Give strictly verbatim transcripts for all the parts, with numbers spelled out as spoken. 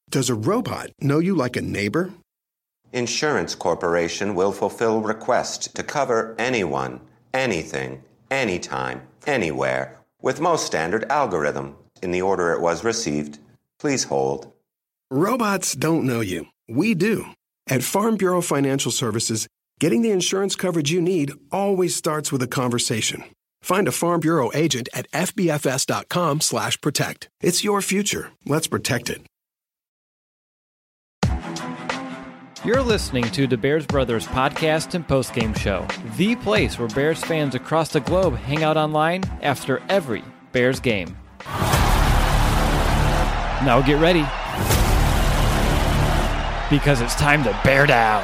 Does a robot know you like a neighbor? Insurance Corporation will fulfill requests to cover anyone, anything, anytime, anywhere, with most standard algorithm in the order it was received. Please hold. Robots don't know you. We do. At Farm Bureau Financial Services, getting the insurance coverage you need always starts with a conversation. Find a Farm Bureau agent at F B F S dot com slash protect. It's your future. Let's protect it. You're listening to the Bears Brothers podcast and postgame show, the place where Bears fans across the globe hang out online after every Bears game. Now get ready, because it's time to bear down.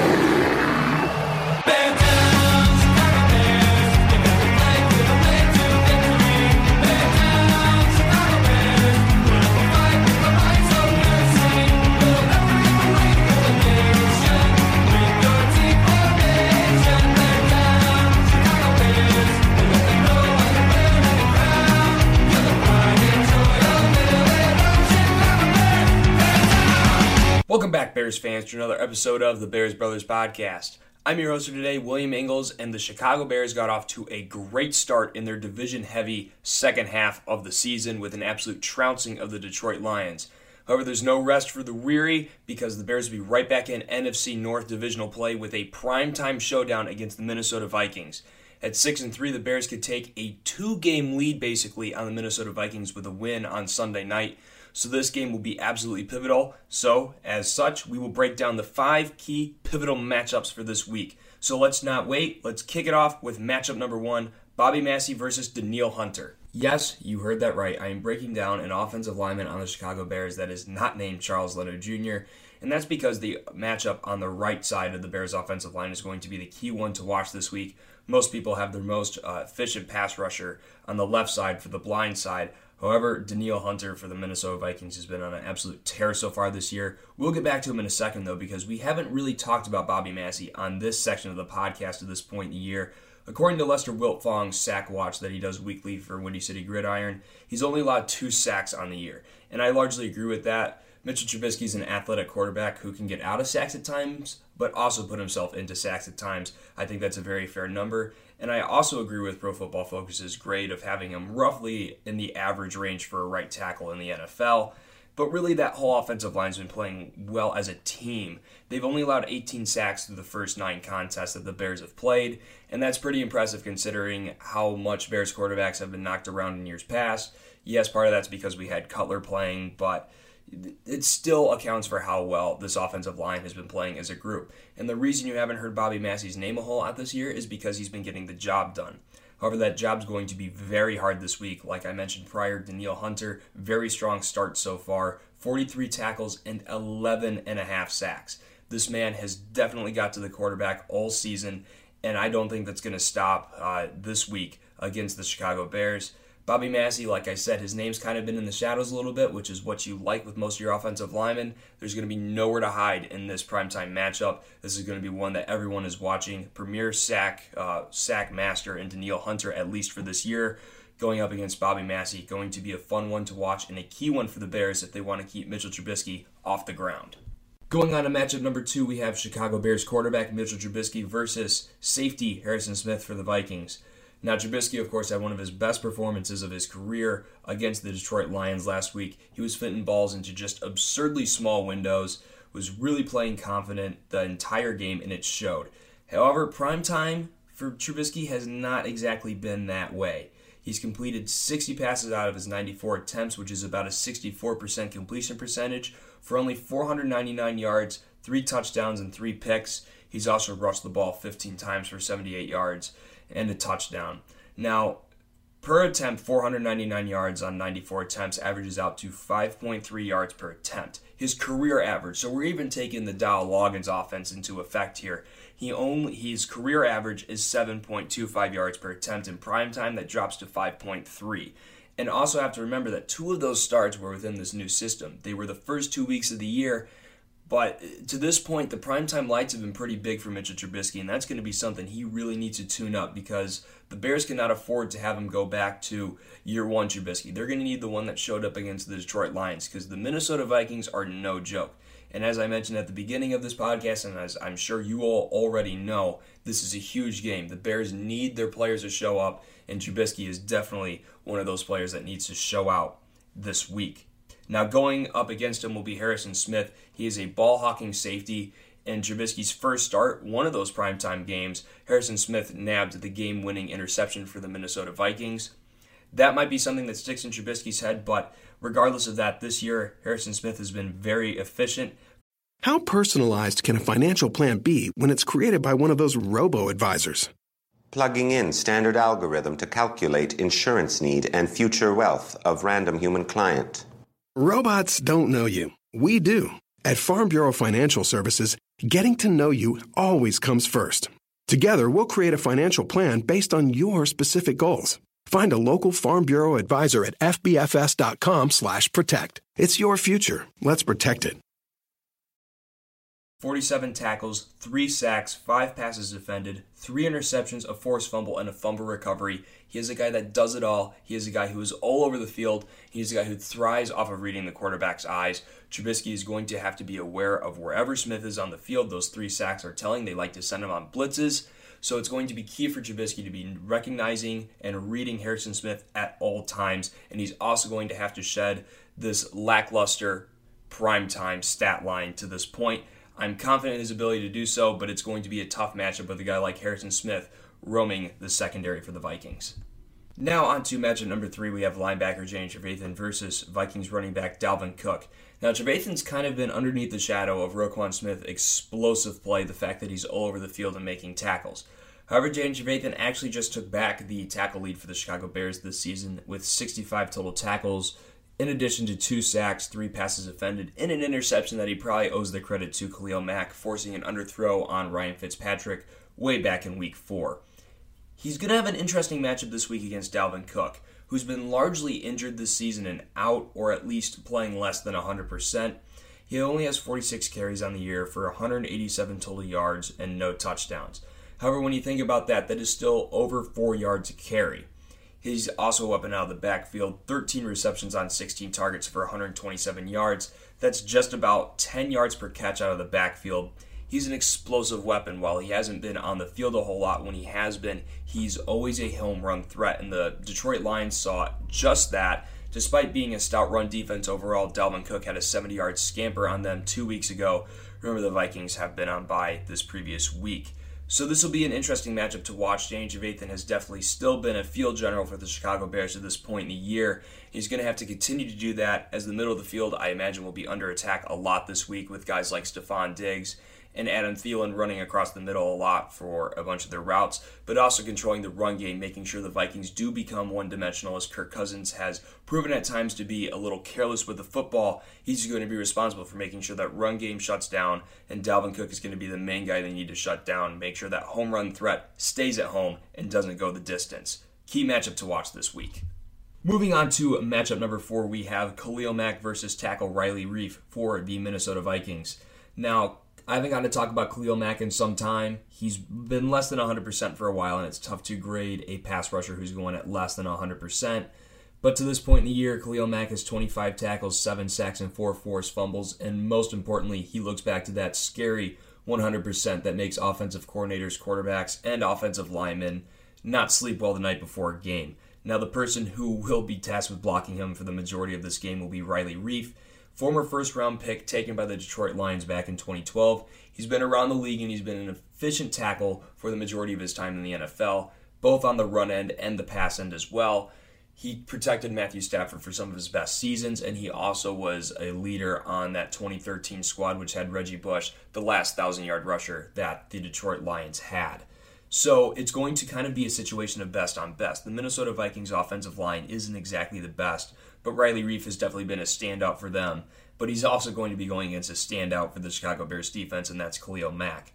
Welcome back, Bears fans, to another episode of the Bears Brothers podcast. I'm your host for today, William Ingles, and the Chicago Bears got off to a great start in their division-heavy second half of the season with an absolute trouncing of the Detroit Lions. However, there's no rest for the weary because the Bears will be right back in N F C North divisional play with a primetime showdown against the Minnesota Vikings. At six and three, the Bears could take a two-game lead basically on the Minnesota Vikings with a win on Sunday night. So this game will be absolutely pivotal. So, as such, we will break down the five key pivotal matchups for this week. So let's not wait. Let's kick it off with matchup number one, Bobby Massie versus Danielle Hunter. Yes, you heard that right. I am breaking down an offensive lineman on the Chicago Bears that is not named Charles Leno Junior, and that's because the matchup on the right side of the Bears offensive line is going to be the key one to watch this week. Most people have their most uh, efficient pass rusher on the left side for the blind side. However, Danielle Hunter for the Minnesota Vikings has been on an absolute tear so far this year. We'll get back to him in a second, though, because we haven't really talked about Bobby Massie on this section of the podcast at this point in the year. According to Lester Wiltfong's sack watch that he does weekly for Windy City Gridiron, he's only allowed two sacks on the year, and I largely agree with that. Mitchell Trubisky is an athletic quarterback who can get out of sacks at times, but also put himself into sacks at times. I think that's a very fair number. And I also agree with Pro Football Focus's grade of having him roughly in the average range for a right tackle in the N F L. But really, that whole offensive line's been playing well as a team. They've only allowed eighteen sacks through the first nine contests that the Bears have played, and that's pretty impressive considering how much Bears quarterbacks have been knocked around in years past. Yes, part of that's because we had Cutler playing, but it still accounts for how well this offensive line has been playing as a group. And the reason you haven't heard Bobby Massie's name a whole lot this year is because he's been getting the job done. However, that job's going to be very hard this week. Like I mentioned prior, Danielle Hunter, very strong start so far, forty-three tackles and eleven and a half sacks. This man has definitely got to the quarterback all season, and I don't think that's going to stop uh, this week against the Chicago Bears. Bobby Massie, like I said, his name's kind of been in the shadows a little bit, which is what you like with most of your offensive linemen. There's going to be nowhere to hide in this primetime matchup. This is going to be one that everyone is watching. Premier sack uh, sack master in Danielle Hunter, at least for this year, going up against Bobby Massie. Going to be a fun one to watch and a key one for the Bears if they want to keep Mitchell Trubisky off the ground. Going on to matchup number two, we have Chicago Bears quarterback Mitchell Trubisky versus safety Harrison Smith for the Vikings. Now, Trubisky, of course, had one of his best performances of his career against the Detroit Lions last week. He was fitting balls into just absurdly small windows, was really playing confident the entire game, and it showed. However, prime time for Trubisky has not exactly been that way. He's completed sixty passes out of his ninety-four attempts, which is about a sixty-four percent completion percentage, for only four hundred ninety-nine yards, three touchdowns, and three picks. He's also rushed the ball fifteen times for seventy-eight yards and a touchdown. Now, per attempt, four hundred ninety-nine yards on ninety-four attempts averages out to five point three yards per attempt. His career average, so we're even taking the Dow Loggins offense into effect here. He only his career average is seven point two five yards per attempt in prime time. That drops to five point three. And also have to remember that two of those starts were within this new system. They were the first two weeks of the year, But to this point, the primetime lights have been pretty big for Mitchell Trubisky, and that's going to be something he really needs to tune up because the Bears cannot afford to have him go back to year one Trubisky. They're going to need the one that showed up against the Detroit Lions because the Minnesota Vikings are no joke. And as I mentioned at the beginning of this podcast, and as I'm sure you all already know, this is a huge game. The Bears need their players to show up, and Trubisky is definitely one of those players that needs to show out this week. Now, going up against him will be Harrison Smith. He is a ball-hawking safety. In Trubisky's first start, one of those primetime games, Harrison Smith nabbed the game-winning interception for the Minnesota Vikings. That might be something that sticks in Trubisky's head, but regardless of that, this year, Harrison Smith has been very efficient. How personalized can a financial plan be when it's created by one of those robo-advisors? Plugging in standard algorithm to calculate insurance need and future wealth of random human client. Robots don't know you. We do. At Farm Bureau Financial Services, getting to know you always comes first. Together, we'll create a financial plan based on your specific goals. Find a local Farm Bureau advisor at f b f s dot com slash protect. It's your future. Let's protect it. forty-seven tackles, three sacks, five passes defended, three interceptions, a forced fumble, and a fumble recovery. He is a guy that does it all. He is a guy who is all over the field. He's a guy who thrives off of reading the quarterback's eyes. Trubisky is going to have to be aware of wherever Smith is on the field. Those three sacks are telling. They like to send him on blitzes. So it's going to be key for Trubisky to be recognizing and reading Harrison Smith at all times. And he's also going to have to shed this lackluster primetime stat line to this point. I'm confident in his ability to do so, but it's going to be a tough matchup with a guy like Harrison Smith roaming the secondary for the Vikings. Now on to matchup number three, we have linebacker Danny Trevathan versus Vikings running back Dalvin Cook. Now Trevathan's kind of been underneath the shadow of Roquan Smith's explosive play, the fact that he's all over the field and making tackles. However, Danny Trevathan actually just took back the tackle lead for the Chicago Bears this season with sixty-five total tackles, in addition to two sacks, three passes defended, and an interception that he probably owes the credit to Khalil Mack, forcing an underthrow on Ryan Fitzpatrick way back in week four. He's going to have an interesting matchup this week against Dalvin Cook, who's been largely injured this season and out, or at least playing less than one hundred percent. He only has forty-six carries on the year for one hundred eighty-seven total yards and no touchdowns. However, when you think about that, that is still over four yards a carry. He's also up and out of the backfield, thirteen receptions on sixteen targets for one hundred twenty-seven yards. That's just about ten yards per catch out of the backfield. He's an explosive weapon. While he hasn't been on the field a whole lot, when he has been, he's always a home run threat, and the Detroit Lions saw just that. Despite being a stout run defense overall, Dalvin Cook had a seventy-yard scamper on them two weeks ago. Remember, the Vikings have been on bye this previous week. So this will be an interesting matchup to watch. Danny Trevathan has definitely still been a field general for the Chicago Bears at this point in the year. He's going to have to continue to do that, as the middle of the field, I imagine, will be under attack a lot this week with guys like Stephon Diggs and Adam Thielen running across the middle a lot for a bunch of their routes, but also controlling the run game, making sure the Vikings do become one-dimensional, as Kirk Cousins has proven at times to be a little careless with the football. He's going to be responsible for making sure that run game shuts down, and Dalvin Cook is going to be the main guy they need to shut down, make sure that home run threat stays at home and doesn't go the distance. Key matchup to watch this week. Moving on to matchup number four, we have Khalil Mack versus tackle Riley Reiff for the Minnesota Vikings. Now, I haven't gotten to talk about Khalil Mack in some time. He's been less than one hundred percent for a while, and it's tough to grade a pass rusher who's going at less than one hundred percent. But to this point in the year, Khalil Mack has twenty-five tackles, seven sacks, and four forced fumbles. And most importantly, he looks back to that scary one hundred percent that makes offensive coordinators, quarterbacks, and offensive linemen not sleep well the night before a game. Now, the person who will be tasked with blocking him for the majority of this game will be Riley Reiff, former first-round pick taken by the Detroit Lions back in twenty twelve. He's been around the league, and he's been an efficient tackle for the majority of his time in the N F L, both on the run end and the pass end as well. He protected Matthew Stafford for some of his best seasons, and he also was a leader on that twenty thirteen squad, which had Reggie Bush, the last thousand-yard rusher that the Detroit Lions had. So it's going to kind of be a situation of best on best. The Minnesota Vikings offensive line isn't exactly the best, but Riley Reiff has definitely been a standout for them. But he's also going to be going against a standout for the Chicago Bears defense, and that's Khalil Mack.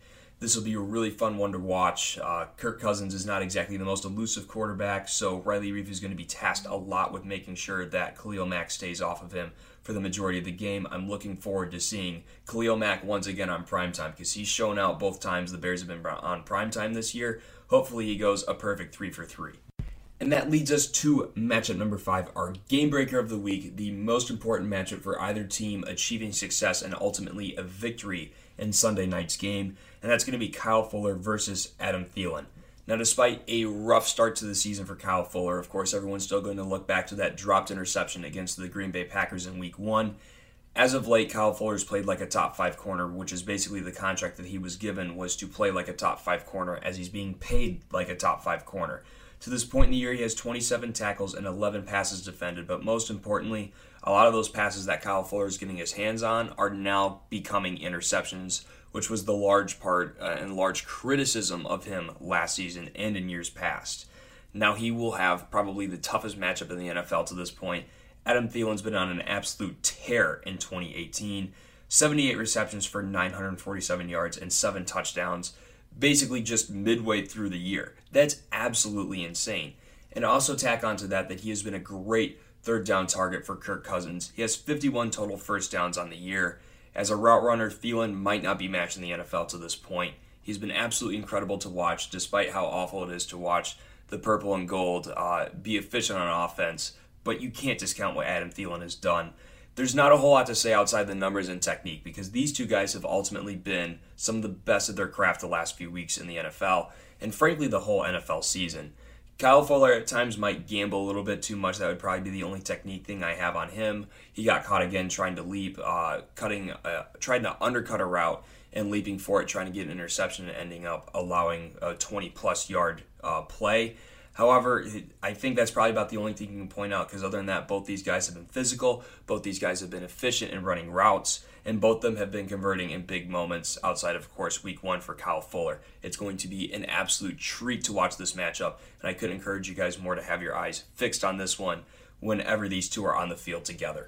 This will be a really fun one to watch. Uh, Kirk Cousins is not exactly the most elusive quarterback, so Riley Reiff is going to be tasked a lot with making sure that Khalil Mack stays off of him for the majority of the game. I'm looking forward to seeing Khalil Mack once again on primetime because he's shown out both times the Bears have been on primetime this year. Hopefully he goes a perfect three for three. And that leads us to matchup number five, our game breaker of the week, the most important matchup for either team achieving success and ultimately a victory in Sunday night's game, and that's going to be Kyle Fuller versus Adam Thielen. Now, despite a rough start to the season for Kyle Fuller, of course, everyone's still going to look back to that dropped interception against the Green Bay Packers in week one. As of late, Kyle Fuller's played like a top five corner, which is basically the contract that he was given was to play like a top five corner as he's being paid like a top five corner. To this point in the year, he has twenty-seven tackles and eleven passes defended, but most importantly, a lot of those passes that Kyle Fuller is getting his hands on are now becoming interceptions, which was the large part uh, and large criticism of him last season and in years past. Now he will have probably the toughest matchup in the N F L to this point. Adam Thielen's been on an absolute tear in twenty eighteen. seventy-eight receptions for nine hundred forty-seven yards and seven touchdowns, basically just midway through the year. That's absolutely insane. And also tack onto that that he has been a great third down target for Kirk Cousins. He has fifty-one total first downs on the year. As a route runner, Thielen might not be matched in the N F L to this point. He's been absolutely incredible to watch, despite how awful it is to watch the purple and gold uh, be efficient on offense. But you can't discount what Adam Thielen has done. There's not a whole lot to say outside the numbers and technique because these two guys have ultimately been some of the best at their craft the last few weeks in the N F L, and frankly the whole N F L season. Kyle Fuller at times might gamble a little bit too much. That would probably be the only technique thing I have on him. He got caught again trying to leap, uh, cutting, uh, trying to undercut a route and leaping for it, trying to get an interception and ending up allowing a twenty-plus yard uh, play. However, I think that's probably about the only thing you can point out because other than that, both these guys have been physical, both these guys have been efficient in running routes, and both of them have been converting in big moments outside of, of course, week one for Kyle Fuller. It's going to be an absolute treat to watch this matchup, and I could encourage you guys more to have your eyes fixed on this one whenever these two are on the field together.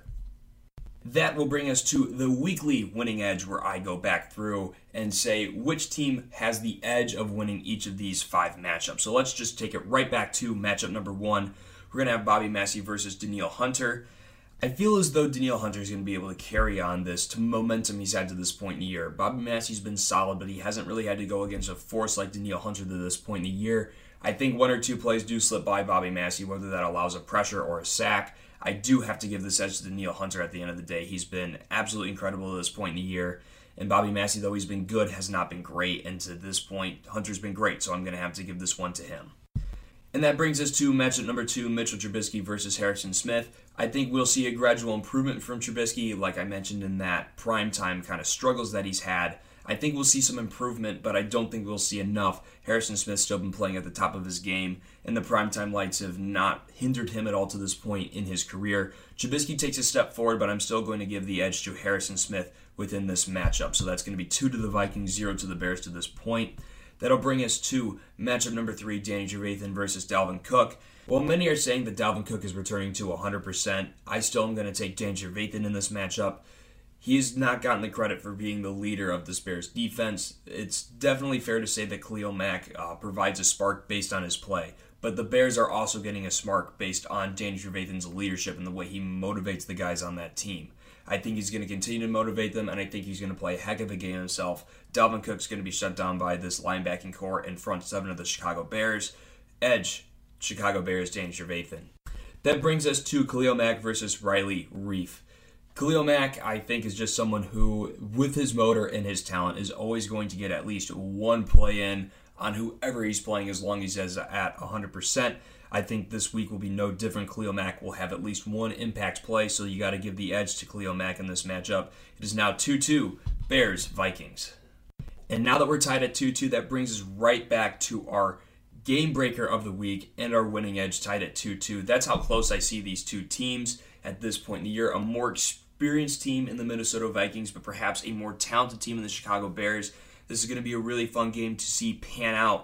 That will bring us to the weekly winning edge where I go back through and say which team has the edge of winning each of these five matchups. So let's just take it right back to matchup number one. We're going to have Bobby Massie versus Danielle Hunter. I feel as though Danielle Hunter is going to be able to carry on this to momentum he's had to this point in the year. Bobby Massie's been solid, but he hasn't really had to go against a force like Danielle Hunter to this point in the year. I think one or two plays do slip by Bobby Massie, whether that allows a pressure or a sack. I do have to give this edge to Danielle Hunter at the end of the day. He's been absolutely incredible at this point in the year. And Bobby Massie, though he's been good, has not been great. And to this point, Hunter's been great, so I'm going to have to give this one to him. And that brings us to matchup number two, Mitchell Trubisky versus Harrison Smith. I think we'll see a gradual improvement from Trubisky, like I mentioned in that primetime kind of struggles that he's had. I think we'll see some improvement, but I don't think we'll see enough. Harrison Smith's still been playing at the top of his game, and the primetime lights have not hindered him at all to this point in his career. Trubisky takes a step forward, but I'm still going to give the edge to Harrison Smith within this matchup. So that's going to be two to the Vikings, zero to the Bears to this point. That'll bring us to matchup number three, Danny Trevathan versus Dalvin Cook. While many are saying that Dalvin Cook is returning to one hundred percent, I still am going to take Danny Trevathan in this matchup. He's not gotten the credit for being the leader of this Bears defense. It's definitely fair to say that Khalil Mack uh, provides a spark based on his play, but the Bears are also getting a spark based on Danny Trevathan's leadership and the way he motivates the guys on that team. I think he's going to continue to motivate them, and I think he's going to play a heck of a game himself. Dalvin Cook's going to be shut down by this linebacking core and front seven of the Chicago Bears. Edge, Chicago Bears, Danny Trevathan. That brings us to Khalil Mack versus Riley Reiff. Khalil Mack, I think, is just someone who, with his motor and his talent, is always going to get at least one play in on whoever he's playing as long as he's at one hundred percent. I think this week will be no different. Khalil Mack will have at least one impact play, so you got to give the edge to Khalil Mack in this matchup. It is now two two, Bears-Vikings. And now that we're tied at two two, that brings us right back to our game breaker of the week and our winning edge tied at two two. That's how close I see these two teams at this point in the year. A more experienced team in the Minnesota Vikings, but perhaps a more talented team in the Chicago Bears. This is going to be a really fun game to see pan out.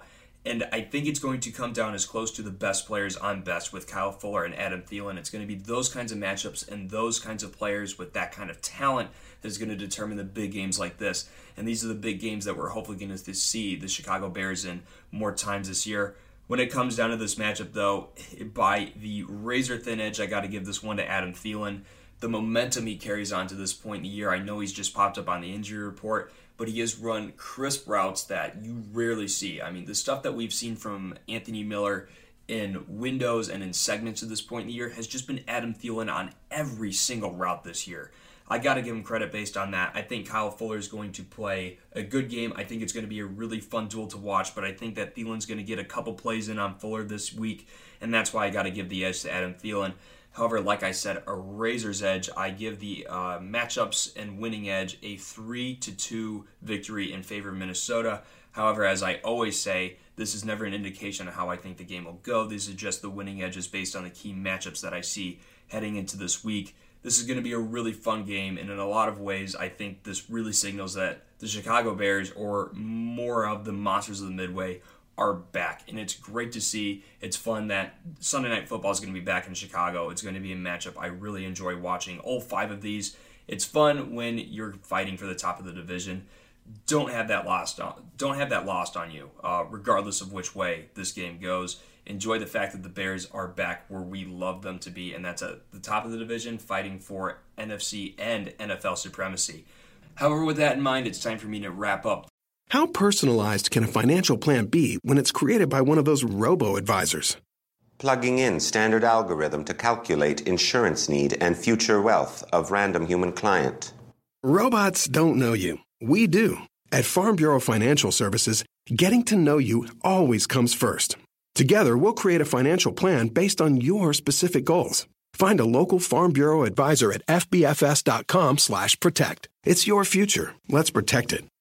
And I think it's going to come down as close to the best players on best with Kyle Fuller and Adam Thielen. It's going to be those kinds of matchups and those kinds of players with that kind of talent that is going to determine the big games like this. And these are the big games that we're hopefully going to see the Chicago Bears in more times this year. When it comes down to this matchup, though, by the razor-thin edge, I got to give this one to Adam Thielen. The momentum he carries on to this point in the year, I know he's just popped up on the injury report, but he has run crisp routes that you rarely see. I mean, the stuff that we've seen from Anthony Miller in windows and in segments at this point in the year has just been Adam Thielen on every single route this year. I got to give him credit based on that. I think Kyle Fuller is going to play a good game. I think it's going to be a really fun duel to watch, but I think that Thielen's going to get a couple plays in on Fuller this week, and that's why I got to give the edge to Adam Thielen. However, like I said, a razor's edge. I give the uh, matchups and winning edge a three to two victory in favor of Minnesota. However, as I always say, this is never an indication of how I think the game will go. These are just the winning edges based on the key matchups that I see heading into this week. This is going to be a really fun game, and in a lot of ways, I think this really signals that the Chicago Bears, or more of the monsters of the Midway, are back, and it's great to see. It's fun that Sunday Night Football is going to be back in Chicago. It's going to be a matchup I really enjoy watching. All five of these. It's fun when you're fighting for the top of the division. Don't have that lost on. Don't have that lost on you, uh, regardless of which way this game goes. Enjoy the fact that the Bears are back where we love them to be, and that's at the top of the division, fighting for N F C and N F L supremacy. However, with that in mind, it's time for me to wrap up. How personalized can a financial plan be when it's created by one of those robo-advisors? Plugging in standard algorithm to calculate insurance need and future wealth of random human client. Robots don't know you. We do. At Farm Bureau Financial Services, getting to know you always comes first. Together, we'll create a financial plan based on your specific goals. Find a local Farm Bureau advisor at f b f s dot com slash protect. It's your future. Let's protect it.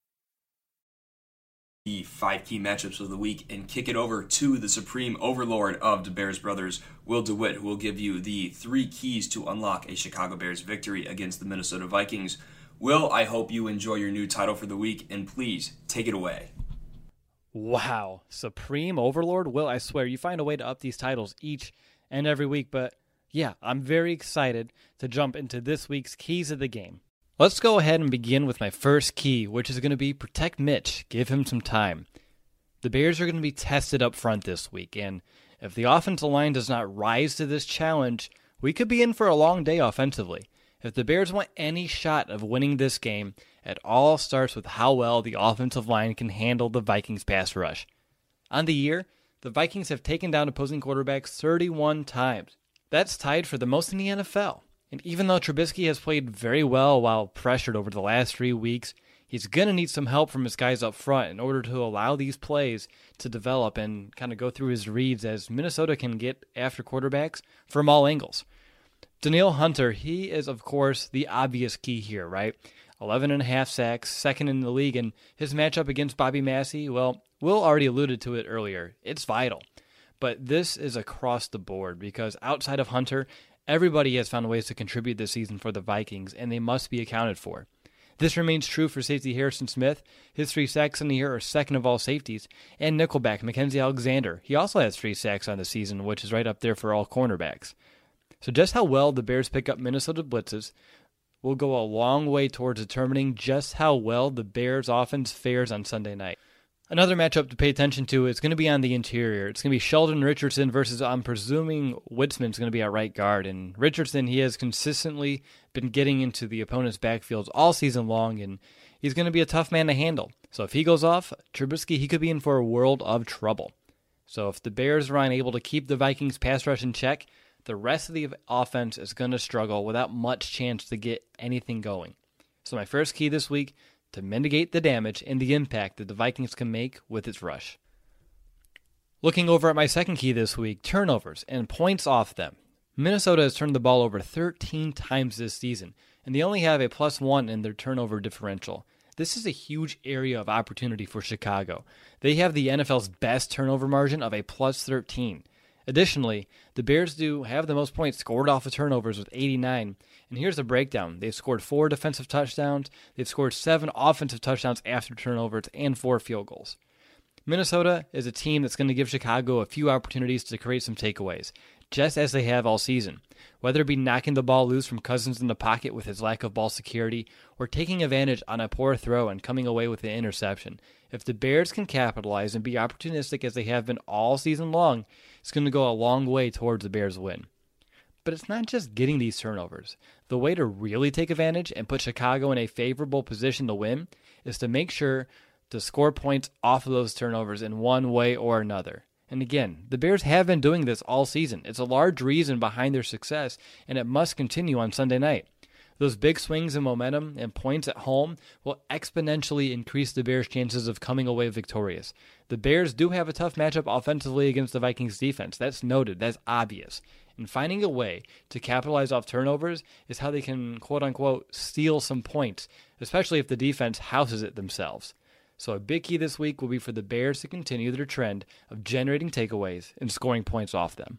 The five key matchups of the week and kick it over to the supreme overlord of the Bears brothers, Will DeWitt, who will give you the three keys to unlock a Chicago Bears victory against the Minnesota Vikings. Will, I hope you enjoy your new title for the week, and please take it away. Wow, Supreme Overlord? Will, I swear, you find a way to up these titles each and every week, but yeah, I'm very excited to jump into this week's keys of the game. Let's go ahead and begin with my first key, which is going to be protect Mitch. Give him some time. The Bears are going to be tested up front this week, and if the offensive line does not rise to this challenge, we could be in for a long day offensively. If the Bears want any shot of winning this game, it all starts with how well the offensive line can handle the Vikings pass rush. On the year, the Vikings have taken down opposing quarterbacks thirty-one times. That's tied for the most in the N F L. And even though Trubisky has played very well while pressured over the last three weeks, he's going to need some help from his guys up front in order to allow these plays to develop and kind of go through his reads, as Minnesota can get after quarterbacks from all angles. Danielle Hunter, he is, of course, the obvious key here, right? eleven and a half sacks, second in the league, and his matchup against Bobby Massey, well, Will already alluded to it earlier. It's vital. But this is across the board because outside of Hunter, everybody has found ways to contribute this season for the Vikings, and they must be accounted for. This remains true for safety Harrison Smith. His three sacks in the year are second of all safeties. And nickelback Mackenzie Alexander. He also has three sacks on the season, which is right up there for all cornerbacks. So just how well the Bears pick up Minnesota blitzes will go a long way towards determining just how well the Bears' offense fares on Sunday night. Another matchup to pay attention to is going to be on the interior. It's going to be Sheldon Richardson versus, I'm presuming, Witzman's going to be at right guard. And Richardson, he has consistently been getting into the opponent's backfields all season long, and he's going to be a tough man to handle. So if he goes off, Trubisky, he could be in for a world of trouble. So if the Bears are unable to keep the Vikings' pass rush in check, the rest of the offense is going to struggle without much chance to get anything going. So my first key this week, to mitigate the damage and the impact that the Vikings can make with its rush. Looking over at my second key this week, turnovers and points off them. Minnesota has turned the ball over thirteen times this season, and they only have a plus one in their turnover differential. This is a huge area of opportunity for Chicago. They have the N F L's best turnover margin of a plus thirteen. Additionally, the Bears do have the most points scored off of turnovers with eighty-nine. And here's the breakdown. They've scored four defensive touchdowns. They've scored seven offensive touchdowns after turnovers and four field goals. Minnesota is a team that's going to give Chicago a few opportunities to create some takeaways, just as they have all season. Whether it be knocking the ball loose from Cousins in the pocket with his lack of ball security, or taking advantage on a poor throw and coming away with an interception. If the Bears can capitalize and be opportunistic as they have been all season long, it's going to go a long way towards the Bears' win. But it's not just getting these turnovers. The way to really take advantage and put Chicago in a favorable position to win is to make sure to score points off of those turnovers in one way or another. And again, the Bears have been doing this all season. It's a large reason behind their success, and it must continue on Sunday night. Those big swings in momentum and points at home will exponentially increase the Bears' chances of coming away victorious. The Bears do have a tough matchup offensively against the Vikings defense. That's noted. That's obvious. And finding a way to capitalize off turnovers is how they can, quote-unquote, steal some points, especially if the defense houses it themselves. So a big key this week will be for the Bears to continue their trend of generating takeaways and scoring points off them.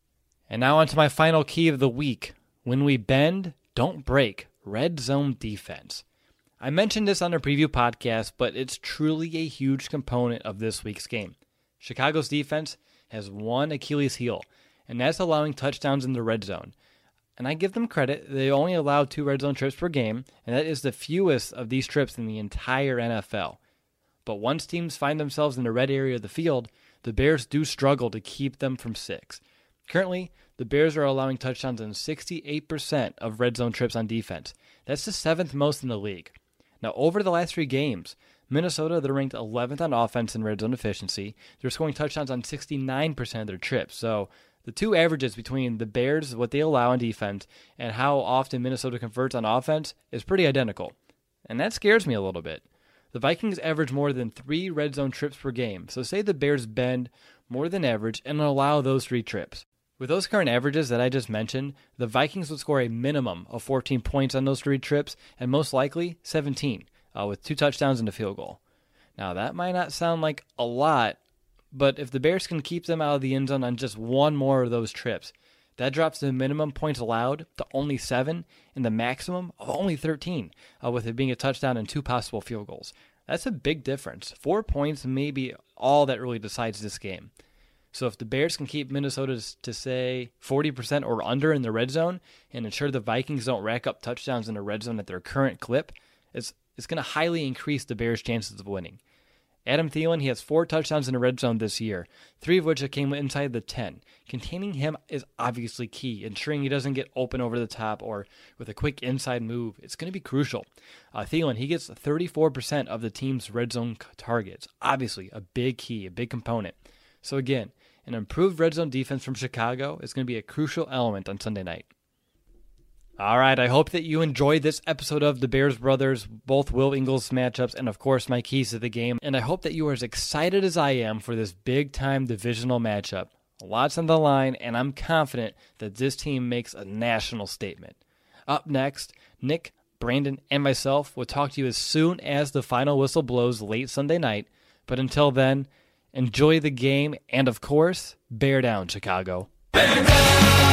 And now on to my final key of the week. When we bend, don't break. Red zone defense. I mentioned this on a preview podcast, but it's truly a huge component of this week's game. Chicago's defense has one Achilles heel, and that's allowing touchdowns in the red zone. And I give them credit. They only allow two red zone trips per game, and that is the fewest of these trips in the entire N F L. But once teams find themselves in the red area of the field, the Bears do struggle to keep them from six. Currently, the Bears are allowing touchdowns in sixty-eight percent of red zone trips on defense. That's the seventh most in the league. Now, over the last three games, Minnesota, they're ranked eleventh on offense in red zone efficiency. They're scoring touchdowns on sixty-nine percent of their trips. So the two averages between the Bears, what they allow on defense, and how often Minnesota converts on offense is pretty identical. And that scares me a little bit. The Vikings average more than three red zone trips per game, so say the Bears bend more than average and allow those three trips. With those current averages that I just mentioned, the Vikings would score a minimum of fourteen points on those three trips, and most likely seventeen, uh, with two touchdowns and a field goal. Now, that might not sound like a lot, but if the Bears can keep them out of the end zone on just one more of those trips, that drops the minimum points allowed to only seven and the maximum of only thirteen, uh, with it being a touchdown and two possible field goals. That's a big difference. Four points may be all that really decides this game. So if the Bears can keep Minnesota to, say, forty percent or under in the red zone and ensure the Vikings don't rack up touchdowns in the red zone at their current clip, it's, it's going to highly increase the Bears' chances of winning. Adam Thielen, he has four touchdowns in the red zone this year, three of which came inside the ten. Containing him is obviously key, ensuring he doesn't get open over the top or with a quick inside move. It's going to be crucial. Uh, Thielen, he gets thirty-four percent of the team's red zone targets. Obviously, a big key, a big component. So again, an improved red zone defense from Chicago is going to be a crucial element on Sunday night. All right, I hope that you enjoyed this episode of the Bears Brothers, both Will Ingles matchups, and of course my keys to the game. And I hope that you are as excited as I am for this big-time divisional matchup. Lots on the line, and I'm confident that this team makes a national statement. Up next, Nick, Brandon, and myself will talk to you as soon as the final whistle blows late Sunday night. But until then, enjoy the game, and of course, bear down, Chicago. Bear down!